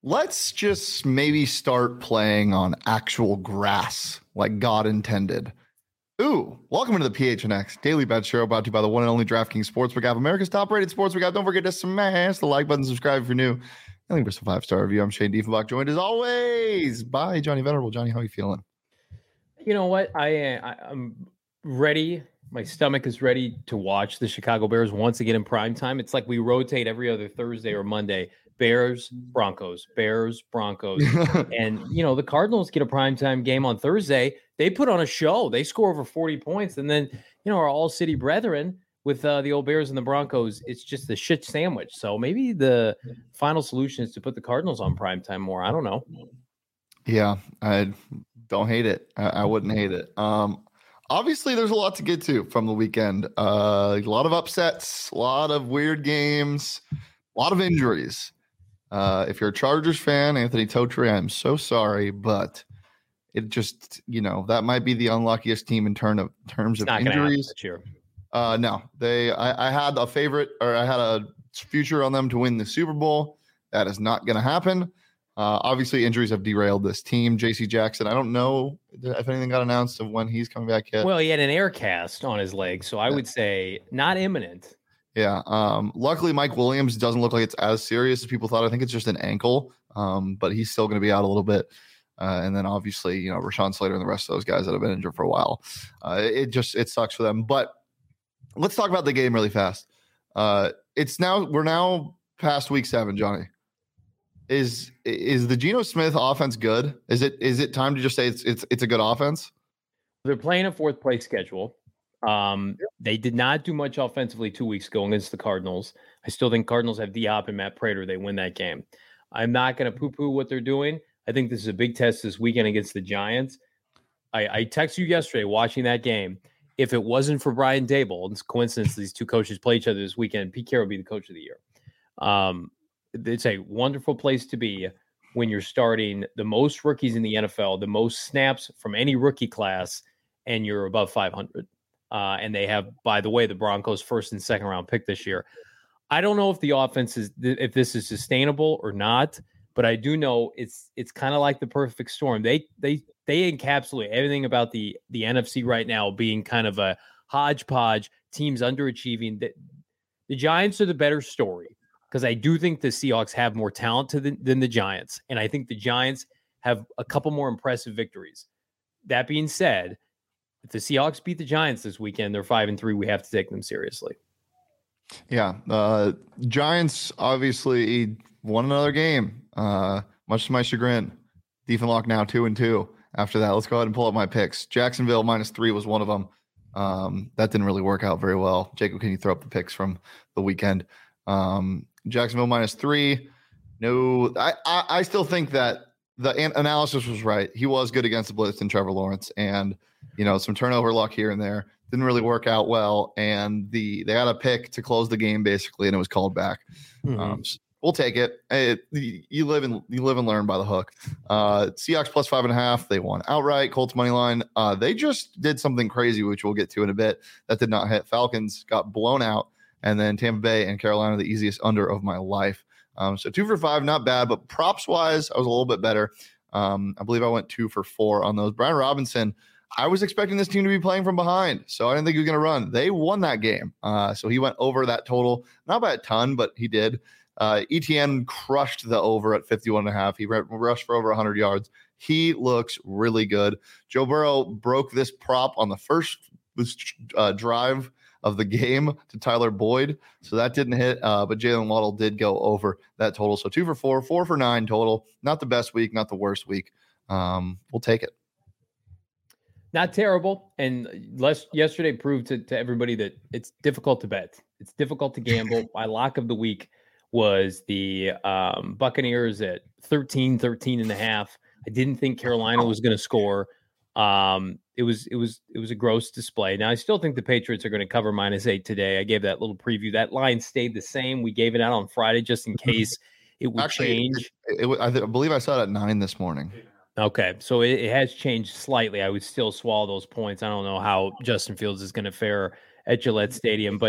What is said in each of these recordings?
let's just maybe start playing on actual grass like God intended. Ooh, welcome into the PHNX Daily Bet Show, brought to you by the one and only DraftKings Sportsbook app, America's top-rated sportsbook app. Don't forget to smash the like button, subscribe if you're new. I think there's a 5-star review. I'm Shane Diefenbach, joined as always by Johnny Venerable. Johnny, how are you feeling? You know what? I'm ready. My stomach is ready to watch the Chicago Bears once again in prime time. It's like we rotate every other Thursday or Monday. Bears, Broncos, Bears, Broncos. And, the Cardinals get a primetime game on Thursday. They put on a show. They score over 40 points. And then, our all-city brethren with the old Bears and the Broncos, it's just a shit sandwich. So maybe the final solution is to put the Cardinals on primetime more. I don't know. Yeah, I don't hate it. I wouldn't hate it. Obviously, there's a lot to get to from the weekend. A lot of upsets, a lot of weird games, a lot of injuries. If you're a Chargers fan, Anthony Totri, I'm so sorry, but it just, that might be the unluckiest team in terms of injuries. No, I had a favorite, or I had a future on them to win the Super Bowl. That is not going to happen. Obviously, injuries have derailed this team. J.C. Jackson, I don't know if anything got announced of when he's coming back yet. Well, he had an air cast on his leg, so I would say not imminent. Yeah. Luckily, Mike Williams doesn't look like it's as serious as people thought. I think it's just an ankle, but he's still going to be out a little bit. And then obviously, Rashawn Slater and the rest of those guys that have been injured for a while. It sucks for them. But let's talk about the game really fast. We're now past week 7, Johnny. Is the Geno Smith offense good? Is it time to just say it's a good offense? They're playing a 4th place schedule. They did not do much offensively 2 weeks ago against the Cardinals. I still think Cardinals have D-Hop and Matt Prater. They win that game. I'm not going to poo-poo what they're doing. I think this is a big test this weekend against the Giants. I texted you yesterday watching that game. If it wasn't for Brian Daboll, it's a coincidence these two coaches play each other this weekend, Pete Carroll would be the coach of the year. It's a wonderful place to be when you're starting the most rookies in the NFL, the most snaps from any rookie class, and you're above 500. And they have, by the way, the Broncos' 1st and 2nd round pick this year. I don't know if the offense if this is sustainable or not, but I do know it's kind of like the perfect storm. They encapsulate everything about the NFC right now being kind of a hodgepodge, teams underachieving. The Giants are the better story because I do think the Seahawks have more talent than the Giants, and I think the Giants have a couple more impressive victories. That being said, if the Seahawks beat the Giants this weekend, they're 5-3. We have to take them seriously. Yeah. Giants obviously won another game, much to my chagrin. Diefenbach now 2-2 after that. Let's go ahead and pull up my picks. Jacksonville -3 was one of them. That didn't really work out very well. Jacob, can you throw up the picks from the weekend? Jacksonville -3. No, I still think that the analysis was right. He was good against the blitz and Trevor Lawrence, and some turnover luck here and there didn't really work out well. And they had a pick to close the game basically, and it was called back. Mm-hmm. We'll take it. You live and learn by the hook. Seahawks +5.5. They won outright. Colts money line. They just did something crazy, which we'll get to in a bit. That did not hit. Falcons got blown out, and then Tampa Bay and Carolina, the easiest under of my life. So 2 for 5, not bad, but props wise, I was a little bit better. I believe I went 2 for 4 on those. Brian Robinson, I was expecting this team to be playing from behind, so I didn't think he was going to run. They won that game. So he went over that total, not by a ton, but he did. ETN crushed the over at 51.5. He rushed for over 100 yards. He looks really good. Joe Burrow broke this prop on the first drive of the game to Tyler Boyd. So that didn't hit, but Jalen Waddle did go over that total. So 2 for 4, 4 for 9 total. Not the best week, not the worst week. We'll take it. Not terrible. And yesterday proved to everybody that it's difficult to bet. It's difficult to gamble. My lock of the week was the Buccaneers at 13.5. I didn't think Carolina was going to score. It was a gross display. Now I still think the Patriots are going to cover -8 today. I gave that little preview. That line stayed the same. We gave it out on Friday just in case it would change. I believe I saw it at 9 this morning. Okay, so it has changed slightly. I would still swallow those points. I don't know how Justin Fields is going to fare at Gillette Stadium, but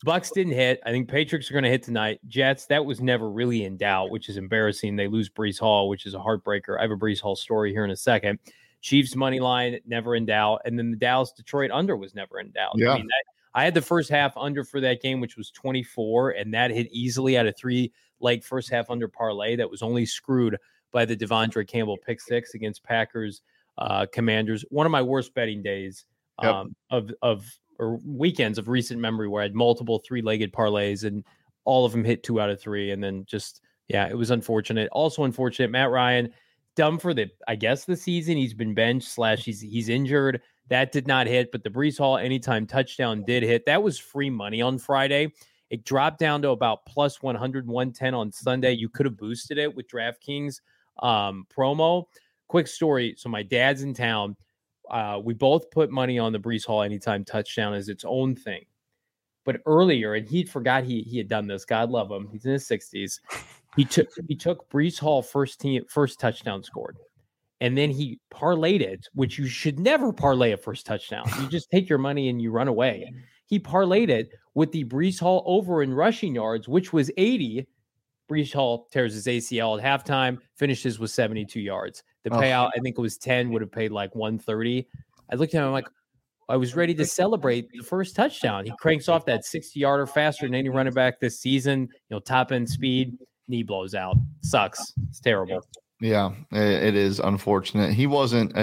Bucks didn't hit. I think Patriots are going to hit tonight. Jets, that was never really in doubt, which is embarrassing. They lose Breece Hall, which is a heartbreaker. I have a Breece Hall story here in a second. Chiefs money line, never in doubt. And then the Dallas-Detroit under was never in doubt. Yeah. I mean, I had the first half under for that game, which was 24, and that hit easily at a 3-leg first half under parlay that was only screwed by the Devondre Campbell pick six against Packers Commanders. One of my worst betting days or weekends of recent memory where I had multiple 3-legged parlays and all of them hit 2 out of 3. And then it was unfortunate. Also unfortunate, Matt Ryan, dumb for the season. He's been benched / he's injured. That did not hit, but the Breece Hall anytime touchdown did hit. That was free money on Friday. It dropped down to about plus 100, 110 on Sunday. You could have boosted it with DraftKings promo. Quick story. So my dad's in town. We both put money on the Breece Hall anytime touchdown as its own thing. But earlier, and he forgot he had done this. God love him. He's in his 60s. He took Breece Hall first touchdown scored. And then he parlayed it, which you should never parlay a first touchdown. You just take your money and you run away. He parlayed it with the Breece Hall over in rushing yards, which was 80. Breece Hall tears his ACL at halftime, finishes with 72 yards. The payout, I think it was 10, would have paid like 130. I looked at him, I'm like, I was ready to celebrate the first touchdown. He cranks off that 60-yarder faster than any running back this season. Top end speed, knee blows out. Sucks. It's terrible. Yeah, it is unfortunate. He wasn't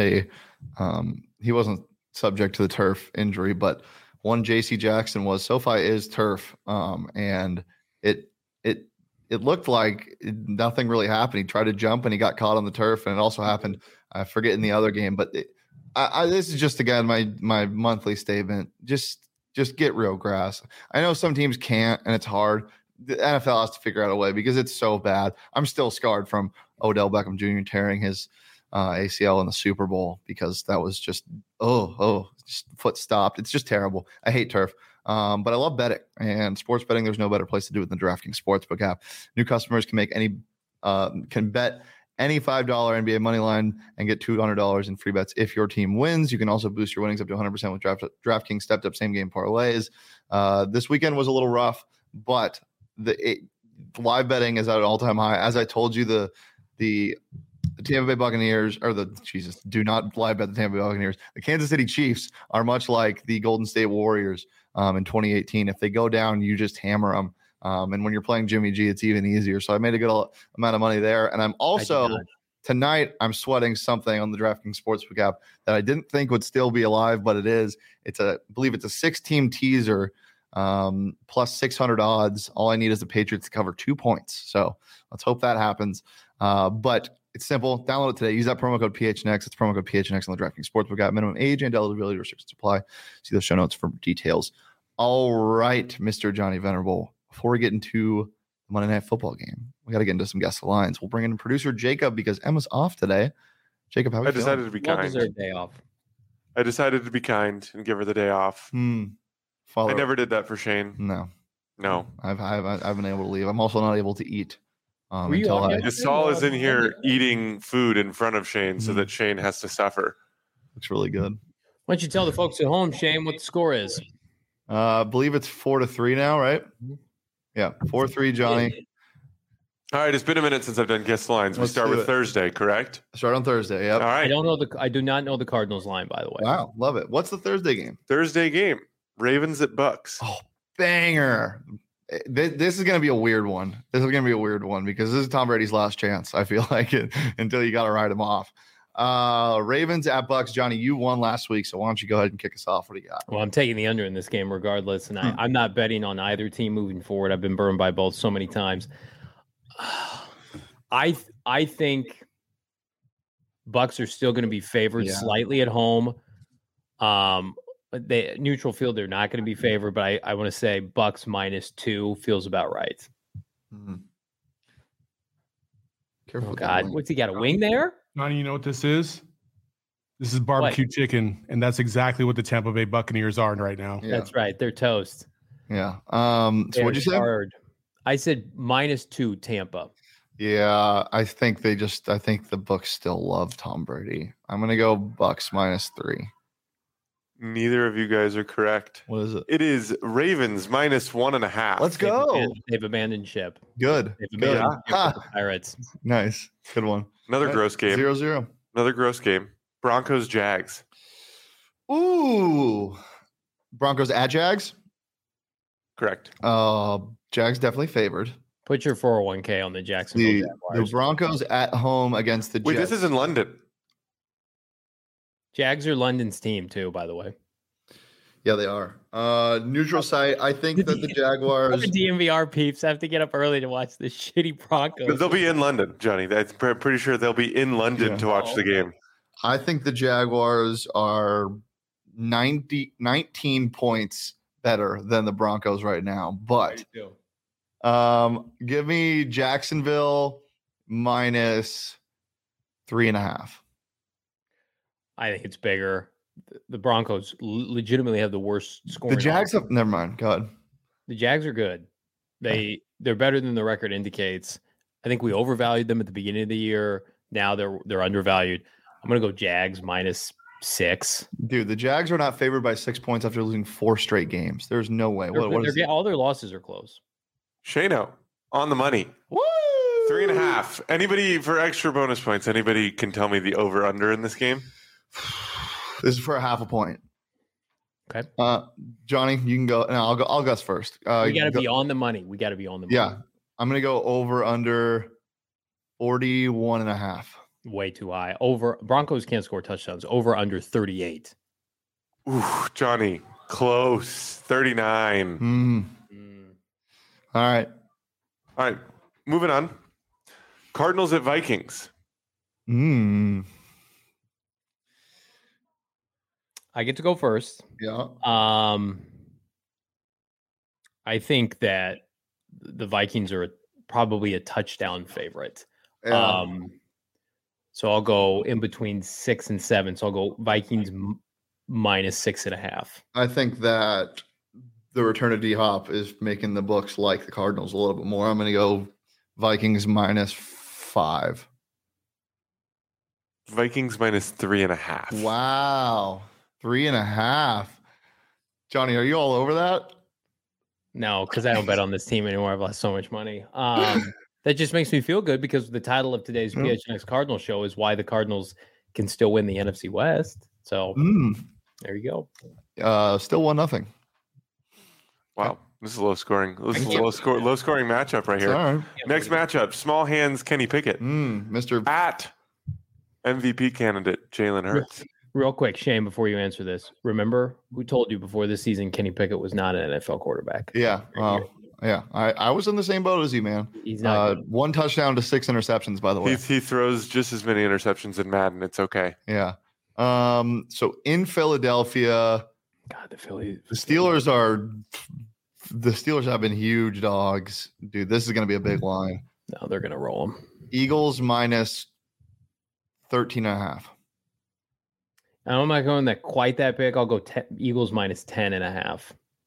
subject to the turf injury, but one JC Jackson was. SoFi is turf, and it looked like nothing really happened. He tried to jump and he got caught on the turf, and it also happened. I forget in the other game, but this is just again my monthly statement. Just get real grass. I know some teams can't, and it's hard. The NFL has to figure out a way because it's so bad. I'm still scarred from Odell Beckham Jr. tearing his ACL in the Super Bowl because that was just just foot stopped. It's just terrible. I hate turf. But I love betting and sports betting. There's no better place to do it than the DraftKings Sportsbook app. New customers can bet any $5 NBA money line and get $200 in free bets if your team wins. You can also boost your winnings up to 100% with DraftKings stepped up same game parlays. This weekend was a little rough, but live betting is at an all-time high. As I told you, the Tampa Bay Buccaneers do not live bet the Tampa Bay Buccaneers. The Kansas City Chiefs are much like the Golden State Warriors in 2018. If they go down, you just hammer them. And when you're playing Jimmy G, it's even easier. So I made a good amount of money there. And I'm also tonight, I'm sweating something on the DraftKings Sportsbook app that I didn't think would still be alive, but it is. I believe it's a 6-team teaser plus 600 odds. All I need is the Patriots to cover 2 points. So let's hope that happens. But it's simple. Download it today. Use that promo code PHNX. It's promo code PHNX on the DraftKings Sportsbook app. Minimum age and eligibility restrictions apply. See the show notes for details. All right, Mr. Johnny Venerable. Before we get into the Monday Night Football game, we got to get into some guest lines. We'll bring in producer Jacob because Emma's off today. Jacob, how are you feeling? decided to be kind. Well-deserved day off. I decided to be kind and give her the day off. I never did that for Shane. No. I've been able to leave. I'm also not able to eat. Gasol is in here eating food in front of Shane so that Shane has to suffer. Looks really good. Why don't you tell the folks at home, Shane, what the score is? I believe it's 4-3 now, right? Yeah, 4-3, Johnny. All right, it's been a minute since I've done guest lines. We start with Thursday, correct? Start on Thursday, yep. All right. I do not know the Cardinals line, by the way. Wow, love it. What's the Thursday game? Thursday game, Ravens at Bucks. Oh, banger. This is going to be a weird one. This is going to be a weird one because this is Tom Brady's last chance, I feel like, until you got to write him off. Ravens at Bucks. Johnny, you won last week, so why don't you go ahead and kick us off? What do you got? Well, I'm taking the under in this game regardless, and I'm not betting on either team moving forward. I've been burned by both so many times. I think Bucks are still going to be favored slightly at home. They neutral field, they're not going to be favored, but I want to say Bucks -2 feels about right. Careful. Oh God, what's he got, a wing there? Johnny, you know what this is? This is barbecue chicken, and that's exactly what the Tampa Bay Buccaneers are right now. Yeah. That's right. They're toast. Yeah. So what'd you say? I said -2 Tampa. Yeah, I think the Bucks still love Tom Brady. I'm gonna go Bucks -3. Neither of you guys are correct. What is it? It is Ravens -1.5. Let's go. They've abandoned ship. Good. They've abandoned ship with the Pirates. Nice. Good one. Another gross game. 0-0. Another gross game. Broncos Jags. Ooh. Broncos at Jags? Correct. Jags definitely favored. Put your 401k on the Jacksonville Jaguars. The Broncos at home against the Jets. Wait, this is in London. Jags are London's team too, by the way. Yeah, they are. Neutral site. I think that the Jaguars. The DMVR peeps have to get up early to watch this shitty Broncos. But they'll be in London, Johnny. I'm pretty sure they'll be in London to watch the game. I think the Jaguars are 19 points better than the Broncos right now. But give me Jacksonville -3.5. I think it's bigger. The Broncos legitimately have the worst scoring. The Jags have never mind. Go ahead. The Jags are good. They're better than the record indicates. I think we overvalued them at the beginning of the year. Now they're undervalued. I'm gonna go Jags -6. Dude, the Jags are not favored by 6 points after losing 4 straight games. There's no way. All their losses are close. Shano on the money. Woo! 3.5. Anybody for extra bonus points? Anybody can tell me the over/under in this game? This is for a 0.5 point. Okay. Johnny, you can go. No, I'll guess first. We got to be on the money. Yeah. I'm going to go over under 41.5. Way too high. Broncos can't score touchdowns. Over under 38. Ooh, Johnny, close. 39. All right. Moving on. Cardinals at Vikings. I get to go first. Yeah. I think that the Vikings are probably a touchdown favorite. Yeah. So I'll go in between 6 and 7. So I'll go Vikings -6.5. I think that the return of D-Hop is making the books like the Cardinals a little bit more. I'm going to go Vikings -5. Vikings -3.5. Wow. 3.5. Johnny, are you all over that? No, because I don't bet on this team anymore. I've lost so much money. That just makes me feel good because the title of today's PHNX Cardinal show is why the Cardinals can still win the NFC West. So there you go. Still 1-0. Wow, this is low scoring. This is a low scoring matchup right here. Right. Next matchup: Small Hands Kenny Pickett, Mr. at MVP candidate Jalen Hurts. Real quick, Shane, before you answer this, remember who told you before this season Kenny Pickett was not an NFL quarterback? Yeah. Yeah. I was in the same boat as you, man. He's not 1 touchdown to 6 interceptions, by the way. He throws just as many interceptions in Madden. It's okay. Yeah. So in Philadelphia, God, the Steelers have been huge dogs. Dude, this is going to be a big line. No, they're going to roll them. Eagles -13.5. I'm not going quite that big. I'll go Eagles -10.5.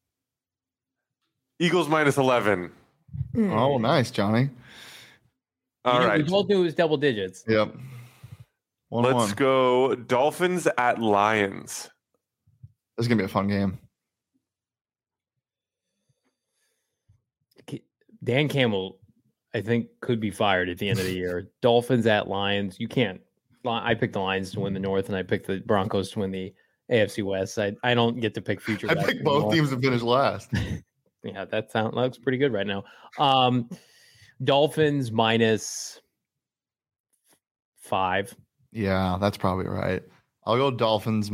Eagles -11. Oh, nice, Johnny. All right. We both knew it was double digits. Yep. 1-1. Let's go Dolphins at Lions. This is going to be a fun game. Dan Campbell, I think, could be fired at the end of the year. Dolphins at Lions. You can't. I picked the Lions to win the North, and I picked the Broncos to win the AFC West. I don't get to pick future. I picked both teams to finish last. Yeah, that looks pretty good right now. Dolphins -5. Yeah, that's probably right. I'll go Dolphins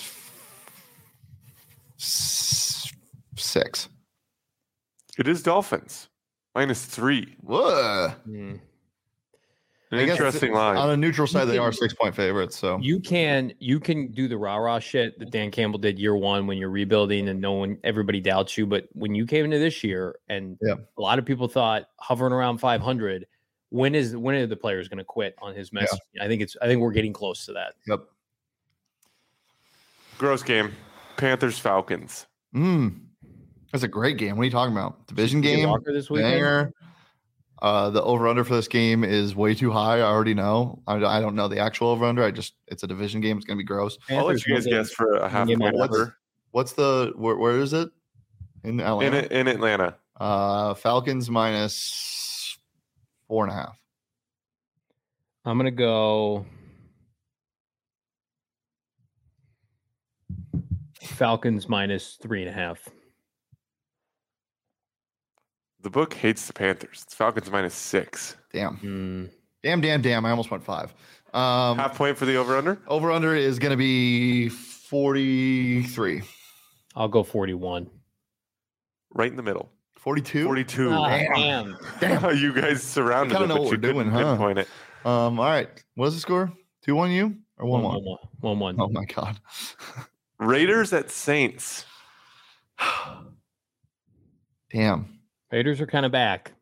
-6. It is Dolphins -3. Whoa. An interesting line. On a neutral side, they are 6-point favorites. So you can do the rah-rah shit that Dan Campbell did year one when you're rebuilding and everybody doubts you. But when you came into this year and a lot of people thought hovering around 500, when are the players going to quit on his message? Yeah. I think we're getting close to that. Yep. Gross game. Panthers Falcons. That's a great game. What are you talking about? Division game. Walker this weekend? Banger. The over-under for this game is way too high. I already know. I don't know the actual over-under. It's a division game. It's going to be gross. I'll let you guys guess for a half point over. What's where is it? In Atlanta? In Atlanta. Falcons minus 4.5. I'm going to go Falcons minus 3.5. The book hates the Panthers. It's Falcons minus 6. Damn. Damn. I almost went 5. Half point for the over-under? Over-under is going to be 43. I'll go 41. Right in the middle. 42? 42. Damn. You guys surrounded it, know but what you we're doing, pinpoint it. All right. What is the score? 2-1 you? Or 1-1? 1-1. Oh, my God. Raiders at Saints. Damn. Raiders are kind of back.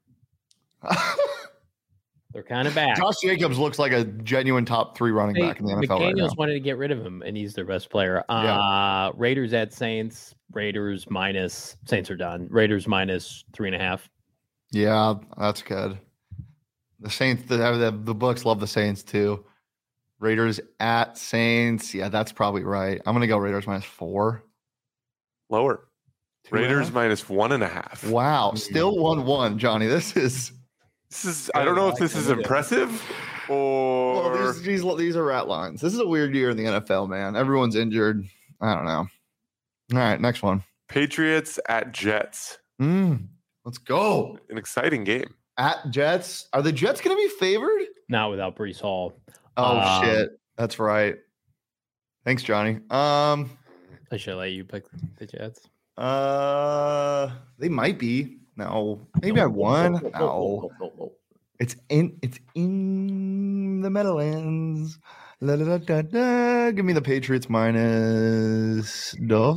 They're kind of back. Josh Jacobs looks like a genuine top 3 running back in the NFL right now. McDaniels wanted to get rid of him, and he's their best player. Raiders at Saints. Raiders minus. Saints are done. Raiders minus 3.5. Yeah, that's good. The Saints, the books love the Saints too. Raiders at Saints. Yeah, that's probably right. I'm going to go Raiders minus 4. Lower. Raiders minus 1.5. Wow. Still 1-1, Johnny. This is I don't know if this is impressive or well, these are rat lines. This is a weird year in the NFL, man. Everyone's injured. I don't know. All right, next one. Patriots at Jets. Let's go. An exciting game. At Jets. Are the Jets going to be favored? Not without Breece Hall. Oh, shit. That's right. Thanks, Johnny. I should let you pick the Jets. They might be. No. Maybe I won. No. It's in the Meadowlands. La, da, da, da, da. Give me the Patriots minus 2.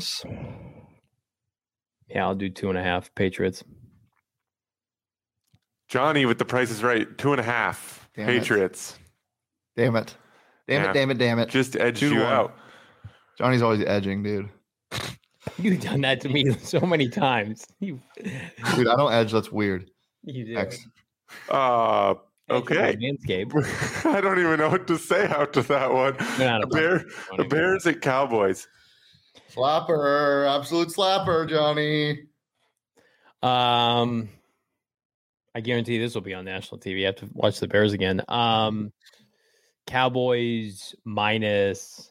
Yeah, I'll do 2.5 Patriots. Johnny with the Price is Right. 2.5 Patriots. Damn it. Damn it. Just edged you out. Johnny's always edging, dude. You've done that to me so many times. Dude, I don't edge. That's weird. You do. Okay. Manscaped. I don't even know what to say after that one. The Bears at Cowboys. Slapper. Absolute slapper, Johnny. I guarantee this will be on national TV. You have to watch the Bears again. Cowboys minus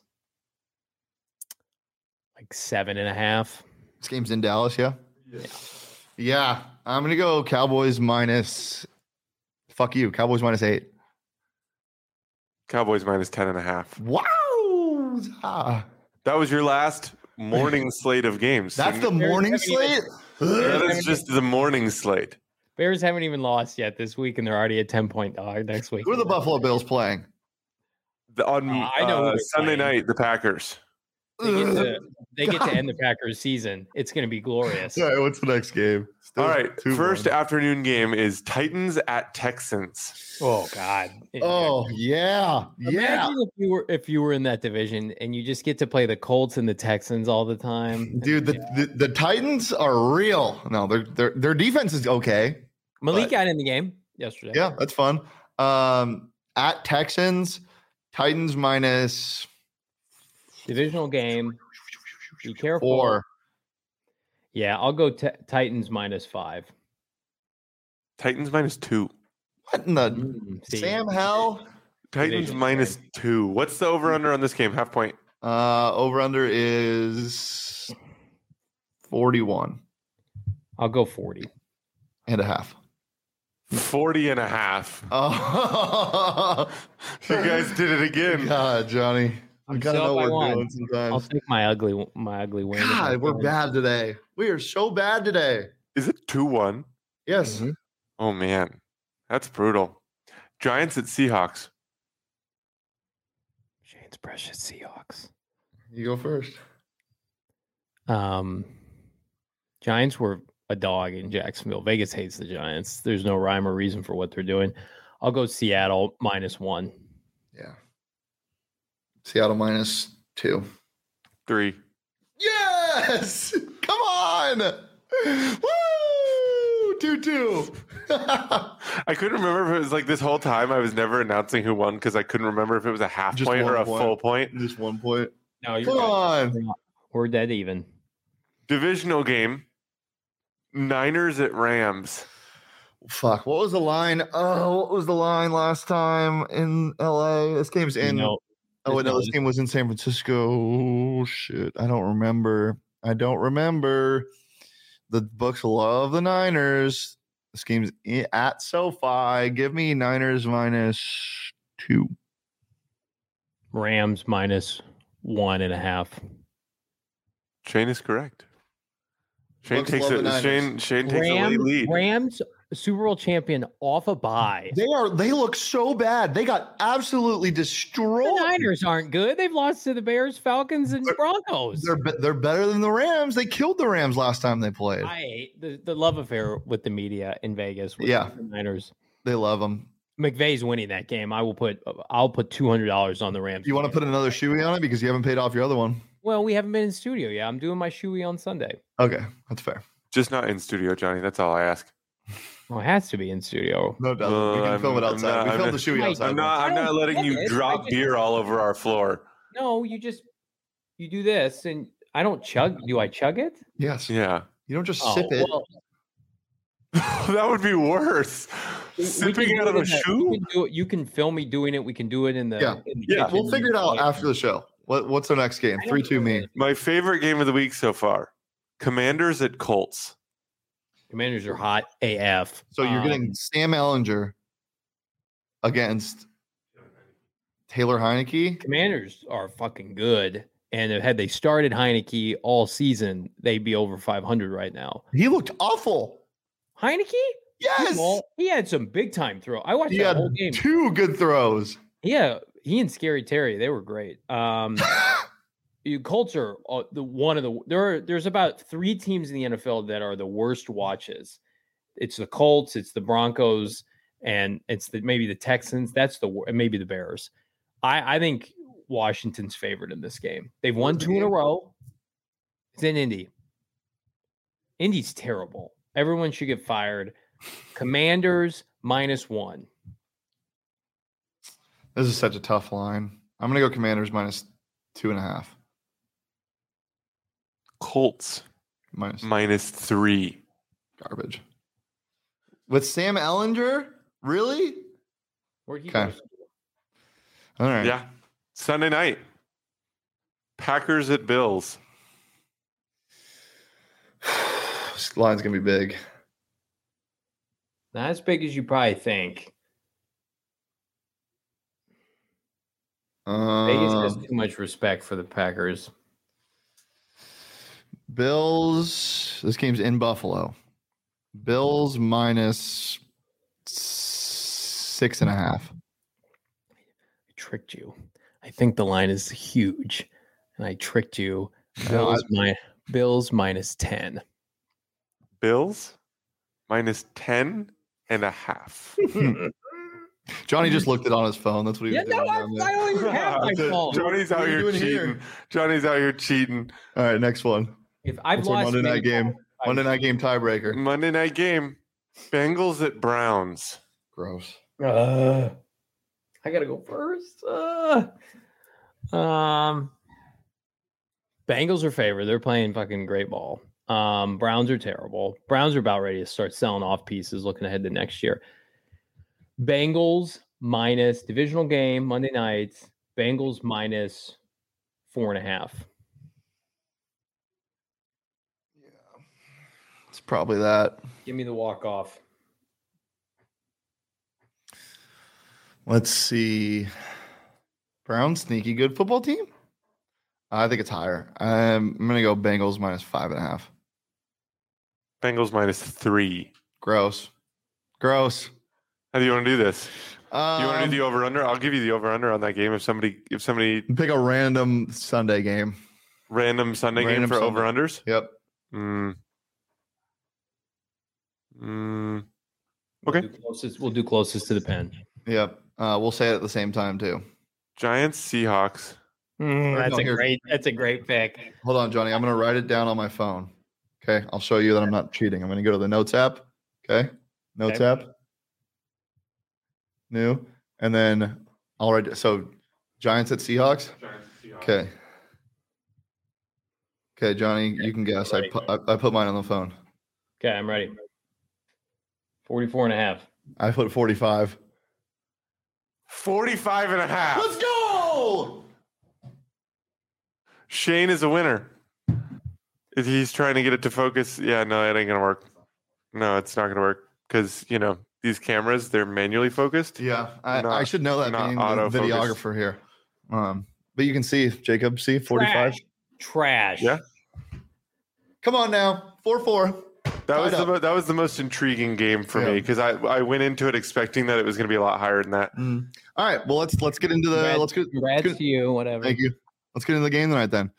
7.5. This game's in Dallas, yeah? Yeah. I'm gonna go Cowboys minus. Fuck you. Cowboys minus 8. Cowboys minus 10.5. Wow. That was your last morning slate of games. That's the morning slate? That is just the morning slate. Bears haven't even lost yet this week, and they're already a 10-point dog next week. Who are the Buffalo Bills playing? On Sunday night, the Packers. They get to end the Packers season. It's going to be glorious. All right, what's the next game? All right, first afternoon game is Titans at Texans. Oh God! Oh yeah. Imagine if you were in that division and you just get to play the Colts and the Texans all the time, dude. The Titans are real. No, their defense is okay. Malik got in the game yesterday. Yeah, that's fun. At Texans, Titans minus. Divisional game. Be careful. 4. Yeah, I'll go Titans minus 5. Titans minus 2. What in the Sam Hell? Titans minus 2. What's the over-under on this game? Half point. Over-under is 41. I'll go 40. And a half. 40.5. Oh. You guys did it again. God, Johnny. I gotta know what we're doing sometimes. I'll take my ugly win. God, we're bad today. We are so bad today. Is it 2-1? Yes. Mm-hmm. Oh man, that's brutal. Giants at Seahawks. Shane's precious Seahawks. You go first. Giants were a dog in Jacksonville. Vegas hates the Giants. There's no rhyme or reason for what they're doing. I'll go Seattle minus 1. Yeah. Seattle minus 2. 3. Yes! Come on! Woo! 2-2. I couldn't remember if it was like this whole time I was never announcing who won because I couldn't remember if it was a half point or a full point. Just 1 point. No, you're Come on. We're dead even. Divisional game. Niners at Rams. Fuck. What was the line? Oh, what was the line last time in LA? This game's in. This game was in San Francisco. Oh, shit. I don't remember. The books love the Niners. This game's at SoFi. Give me Niners -2. Rams -1.5. Shane is correct. Shane takes a late lead. Rams Super Bowl champion off a bye. They look so bad. They got absolutely destroyed. The Niners aren't good. They've lost to the Bears, Falcons, and Broncos. They're better than the Rams. They killed the Rams last time they played. I hate the love affair with the media in Vegas. With the Niners. They love them. McVay's winning that game. I'll put $200 on the Rams. You want to put another shoey on it because you haven't paid off your other one? Well, we haven't been in studio yet. I'm doing my shoey on Sunday. Okay, that's fair. Just not in studio, Johnny. That's all I ask. Well, it has to be in studio. No, we can film it outside. We film the shoey outside. I'm not letting you drop beer all over our floor. No, you do this, and I don't chug. Do I chug it? Yes. Yeah. You don't just sip it. Well, that would be worse. Sipping out of a shoe? You can film me doing it. We can do it in the kitchen. We'll figure it out after the show. What's our next game? 3-2 me. My favorite game of the week so far. Commanders at Colts. Commanders are hot AF. So you're getting Sam Ehlinger against Taylor Heineke. Commanders are fucking good. And had they started Heineke all season, they'd be over 500 right now. He looked awful. Heineke? Yes. He had some big time throw. I watched that whole game. 2 good throws. Yeah. He and Scary Terry, they were great. Colts are there's about 3 teams in the NFL that are the worst watches. It's the Colts, it's the Broncos, and it's maybe the Texans. Maybe the Bears. I think Washington's favored in this game. They've won 2 in a row. It's in Indy. Indy's terrible. Everyone should get fired. Commanders -1. This is such a tough line. I'm going to go Commanders -2.5. Colts -3. Garbage. With Sam Ehlinger? Really? Where'd he go? All right. Yeah. Sunday night. Packers at Bills. This line's going to be big. Not as big as you probably think. Vegas has too much respect for the Packers. Bills. This game's in Buffalo. Bills -6.5. I tricked you. I think the line is huge, and I tricked you. Bills -10. Bills -10.5. Johnny just looked it on his phone. That's what he was doing. I don't even have my phone. Johnny's out here cheating. Johnny's out here cheating. All right, next one. If I've lost Monday night game. Monday night game tiebreaker. Monday night game. Bengals at Browns. Gross. I gotta go first. Bengals are favored. They're playing fucking great ball. Browns are terrible. Browns are about ready to start selling off pieces, looking ahead to next year. Bengals minus divisional game Monday night. Bengals -4.5. Yeah, it's probably that. Give me the walk off. Let's see. Browns sneaky good football team. I think it's higher. I'm gonna go Bengals -5.5. Bengals -3. Gross. How do you want to do this? Do you want to do the over/under? I'll give you the over/under on that game. If somebody pick a random Sunday game, game for over/unders. Yep. Okay. We'll do closest to the pen. Yep. We'll say it at the same time too. Giants, Seahawks. That's a great pick. Hold on, Johnny. I'm gonna write it down on my phone. Okay. I'll show you that I'm not cheating. I'm gonna go to the notes app. Okay. No tap. New. And then all right. So Giants at Seahawks. Okay. Okay, Johnny, you can guess. I put mine on the phone. Okay, I'm ready. 44.5. I put 45. 45.5. Let's go! Shane is a winner. If he's trying to get it to focus, yeah, no, it ain't gonna work. No, it's not gonna work because these cameras, they're manually focused. Yeah, I should know that being the videographer here. But you can see, Jacob, see 45. Trash. Yeah. Come on now, 4-4. That was the most intriguing game for me because I went into it expecting that it was going to be a lot higher than that. All right, well let's get into the congrats to you, whatever. Thank you. Let's get into the game tonight then.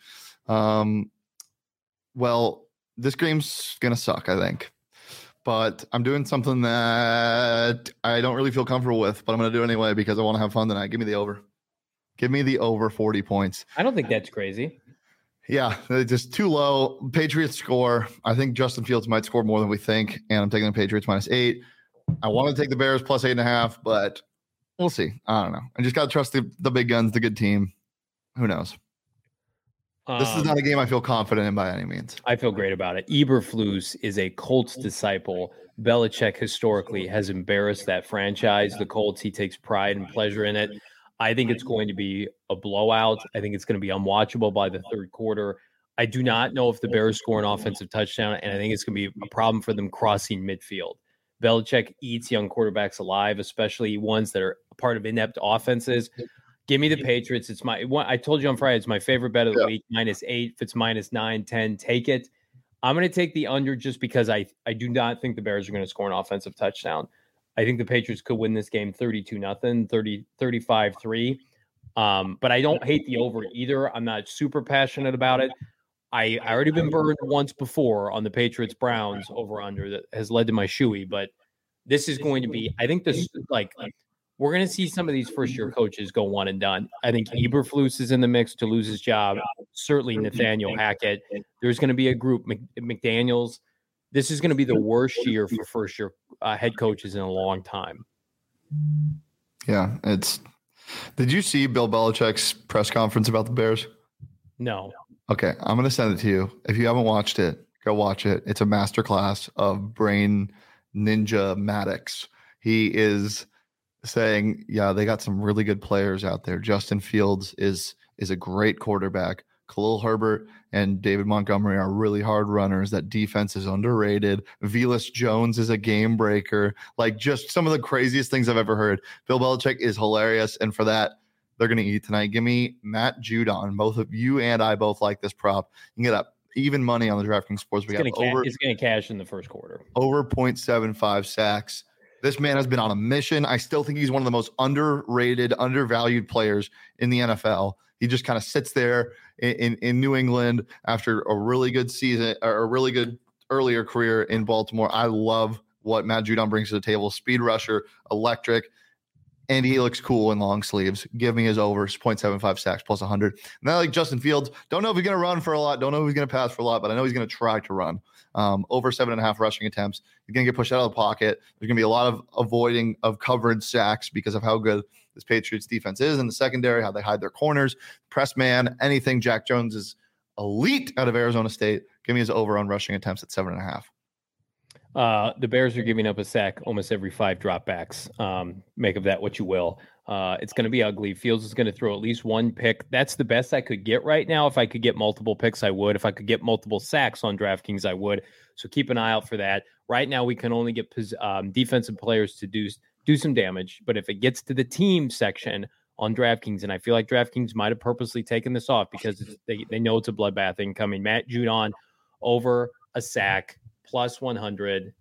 Well, this game's gonna suck, I think, but I'm doing something that I don't really feel comfortable with, but I'm gonna do it anyway because I want to have fun tonight. Give me the over. Give me the over 40 points. I don't think that's crazy. Yeah, it's just too low. Patriots score. I think Justin Fields might score more than we think, and I'm taking the Patriots -8. I want to take the Bears +8.5, but we'll see. I don't know. I just got to trust the big guns, the good team. Who knows? This is not a game I feel confident in by any means. I feel great about it. Eberflus is a Colts disciple. Belichick historically has embarrassed that franchise. The Colts, he takes pride and pleasure in it. I think it's going to be a blowout. I think it's going to be unwatchable by the third quarter. I do not know if the Bears score an offensive touchdown, and I think it's going to be a problem for them crossing midfield. Belichick eats young quarterbacks alive, especially ones that are part of inept offenses. Give me the Patriots. I told you on Friday, it's my favorite bet of the week, -8. If it's -9, 10, take it. I'm going to take the under just because I do not think the Bears are going to score an offensive touchdown. I think the Patriots could win this game 32-0, 35-3. But I don't hate the over either. I'm not super passionate about it. I already been burned once before on the Patriots Browns over under that has led to my shoey, but this is going to be, I think this we're going to see some of these first year coaches go one and done. I think Eberflus is in the mix to lose his job. Certainly Nathaniel Hackett. There's going to be a group, McDaniels. This is going to be the worst year for first year head coaches in a long time. Yeah, did you see Bill Belichick's press conference about the Bears? No. Okay, I'm going to send it to you. If you haven't watched it, go watch it. It's a masterclass of brain ninja-matics. He is saying, they got some really good players out there. Justin Fields is a great quarterback. Khalil Herbert and David Montgomery are really hard runners. That defense is underrated. Velus Jones is a game breaker. Like, just some of the craziest things I've ever heard. Bill Belichick is hilarious, and for that, they're going to eat tonight. Give me Matt Judon. Both of you and I both like this prop. You can get up even money on the DraftKings Sportsbook. It's going to cash in the first quarter. Over 0.75 sacks. This man has been on a mission. I still think he's one of the most underrated, undervalued players in the NFL. He just kind of sits there in New England after a really good season or a really good earlier career in Baltimore. I love what Matt Judon brings to the table. Speed rusher, electric, and he looks cool in long sleeves. Give me his over 0.75 sacks +100. And then, like Justin Fields, don't know if he's going to run for a lot. Don't know if he's going to pass for a lot, but I know he's going to try to run. Over 7.5 rushing attempts. He's going to get pushed out of the pocket. There's going to be a lot of avoiding of coverage sacks because of how good this Patriots defense is in the secondary, how they hide their corners, press man, anything. Jack Jones is elite out of Arizona State. Give me his over on rushing attempts at 7.5. The Bears are giving up a sack almost every 5 dropbacks. Make of that what you will. It's going to be ugly. Fields is going to throw at least one pick. That's the best I could get right now. If I could get multiple picks, I would. If I could get multiple sacks on DraftKings, I would. So keep an eye out for that. Right now, we can only get defensive players to do some damage. But if it gets to the team section on DraftKings, and I feel like DraftKings might have purposely taken this off because they know it's a bloodbath incoming. Matt Judon over a sack +100.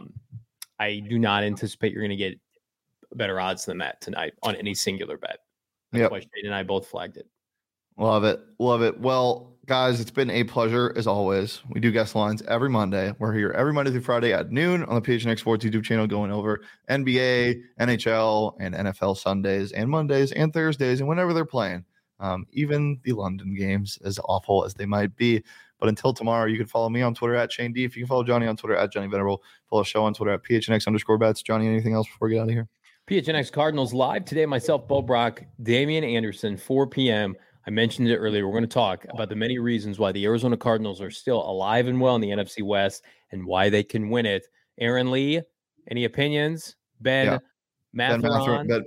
I do not anticipate you're going to get better odds than that tonight on any singular bet. That's why Shane and I both flagged it. Love it. Love it. Well, guys, it's been a pleasure as always. We do guest lines every Monday. We're here every Monday through Friday at noon on the PHNX Sports YouTube channel going over NBA, NHL, and NFL Sundays and Mondays and Thursdays and whenever they're playing. even the London games, as awful as they might be. But until tomorrow, you can follow me on Twitter at Shane D. If you can follow Johnny on Twitter at Johnny Venerable, follow the show on Twitter at PHNX_bets. Johnny, anything else before we get out of here? PHNX Cardinals live today. Myself, Bo Brock, Damian Anderson, 4 p.m. I mentioned it earlier. We're going to talk about the many reasons why the Arizona Cardinals are still alive and well in the NFC West and why they can win it. Aaron Lee, any opinions? Ben Matherin.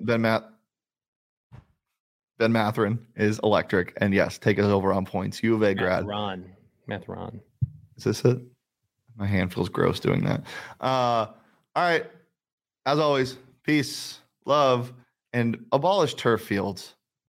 Ben Matherin is electric. And yes, take us over on points. U of A grad. Matherin. Is this it? My hand feels gross doing that. All right. As always, peace, love, and abolish turf fields.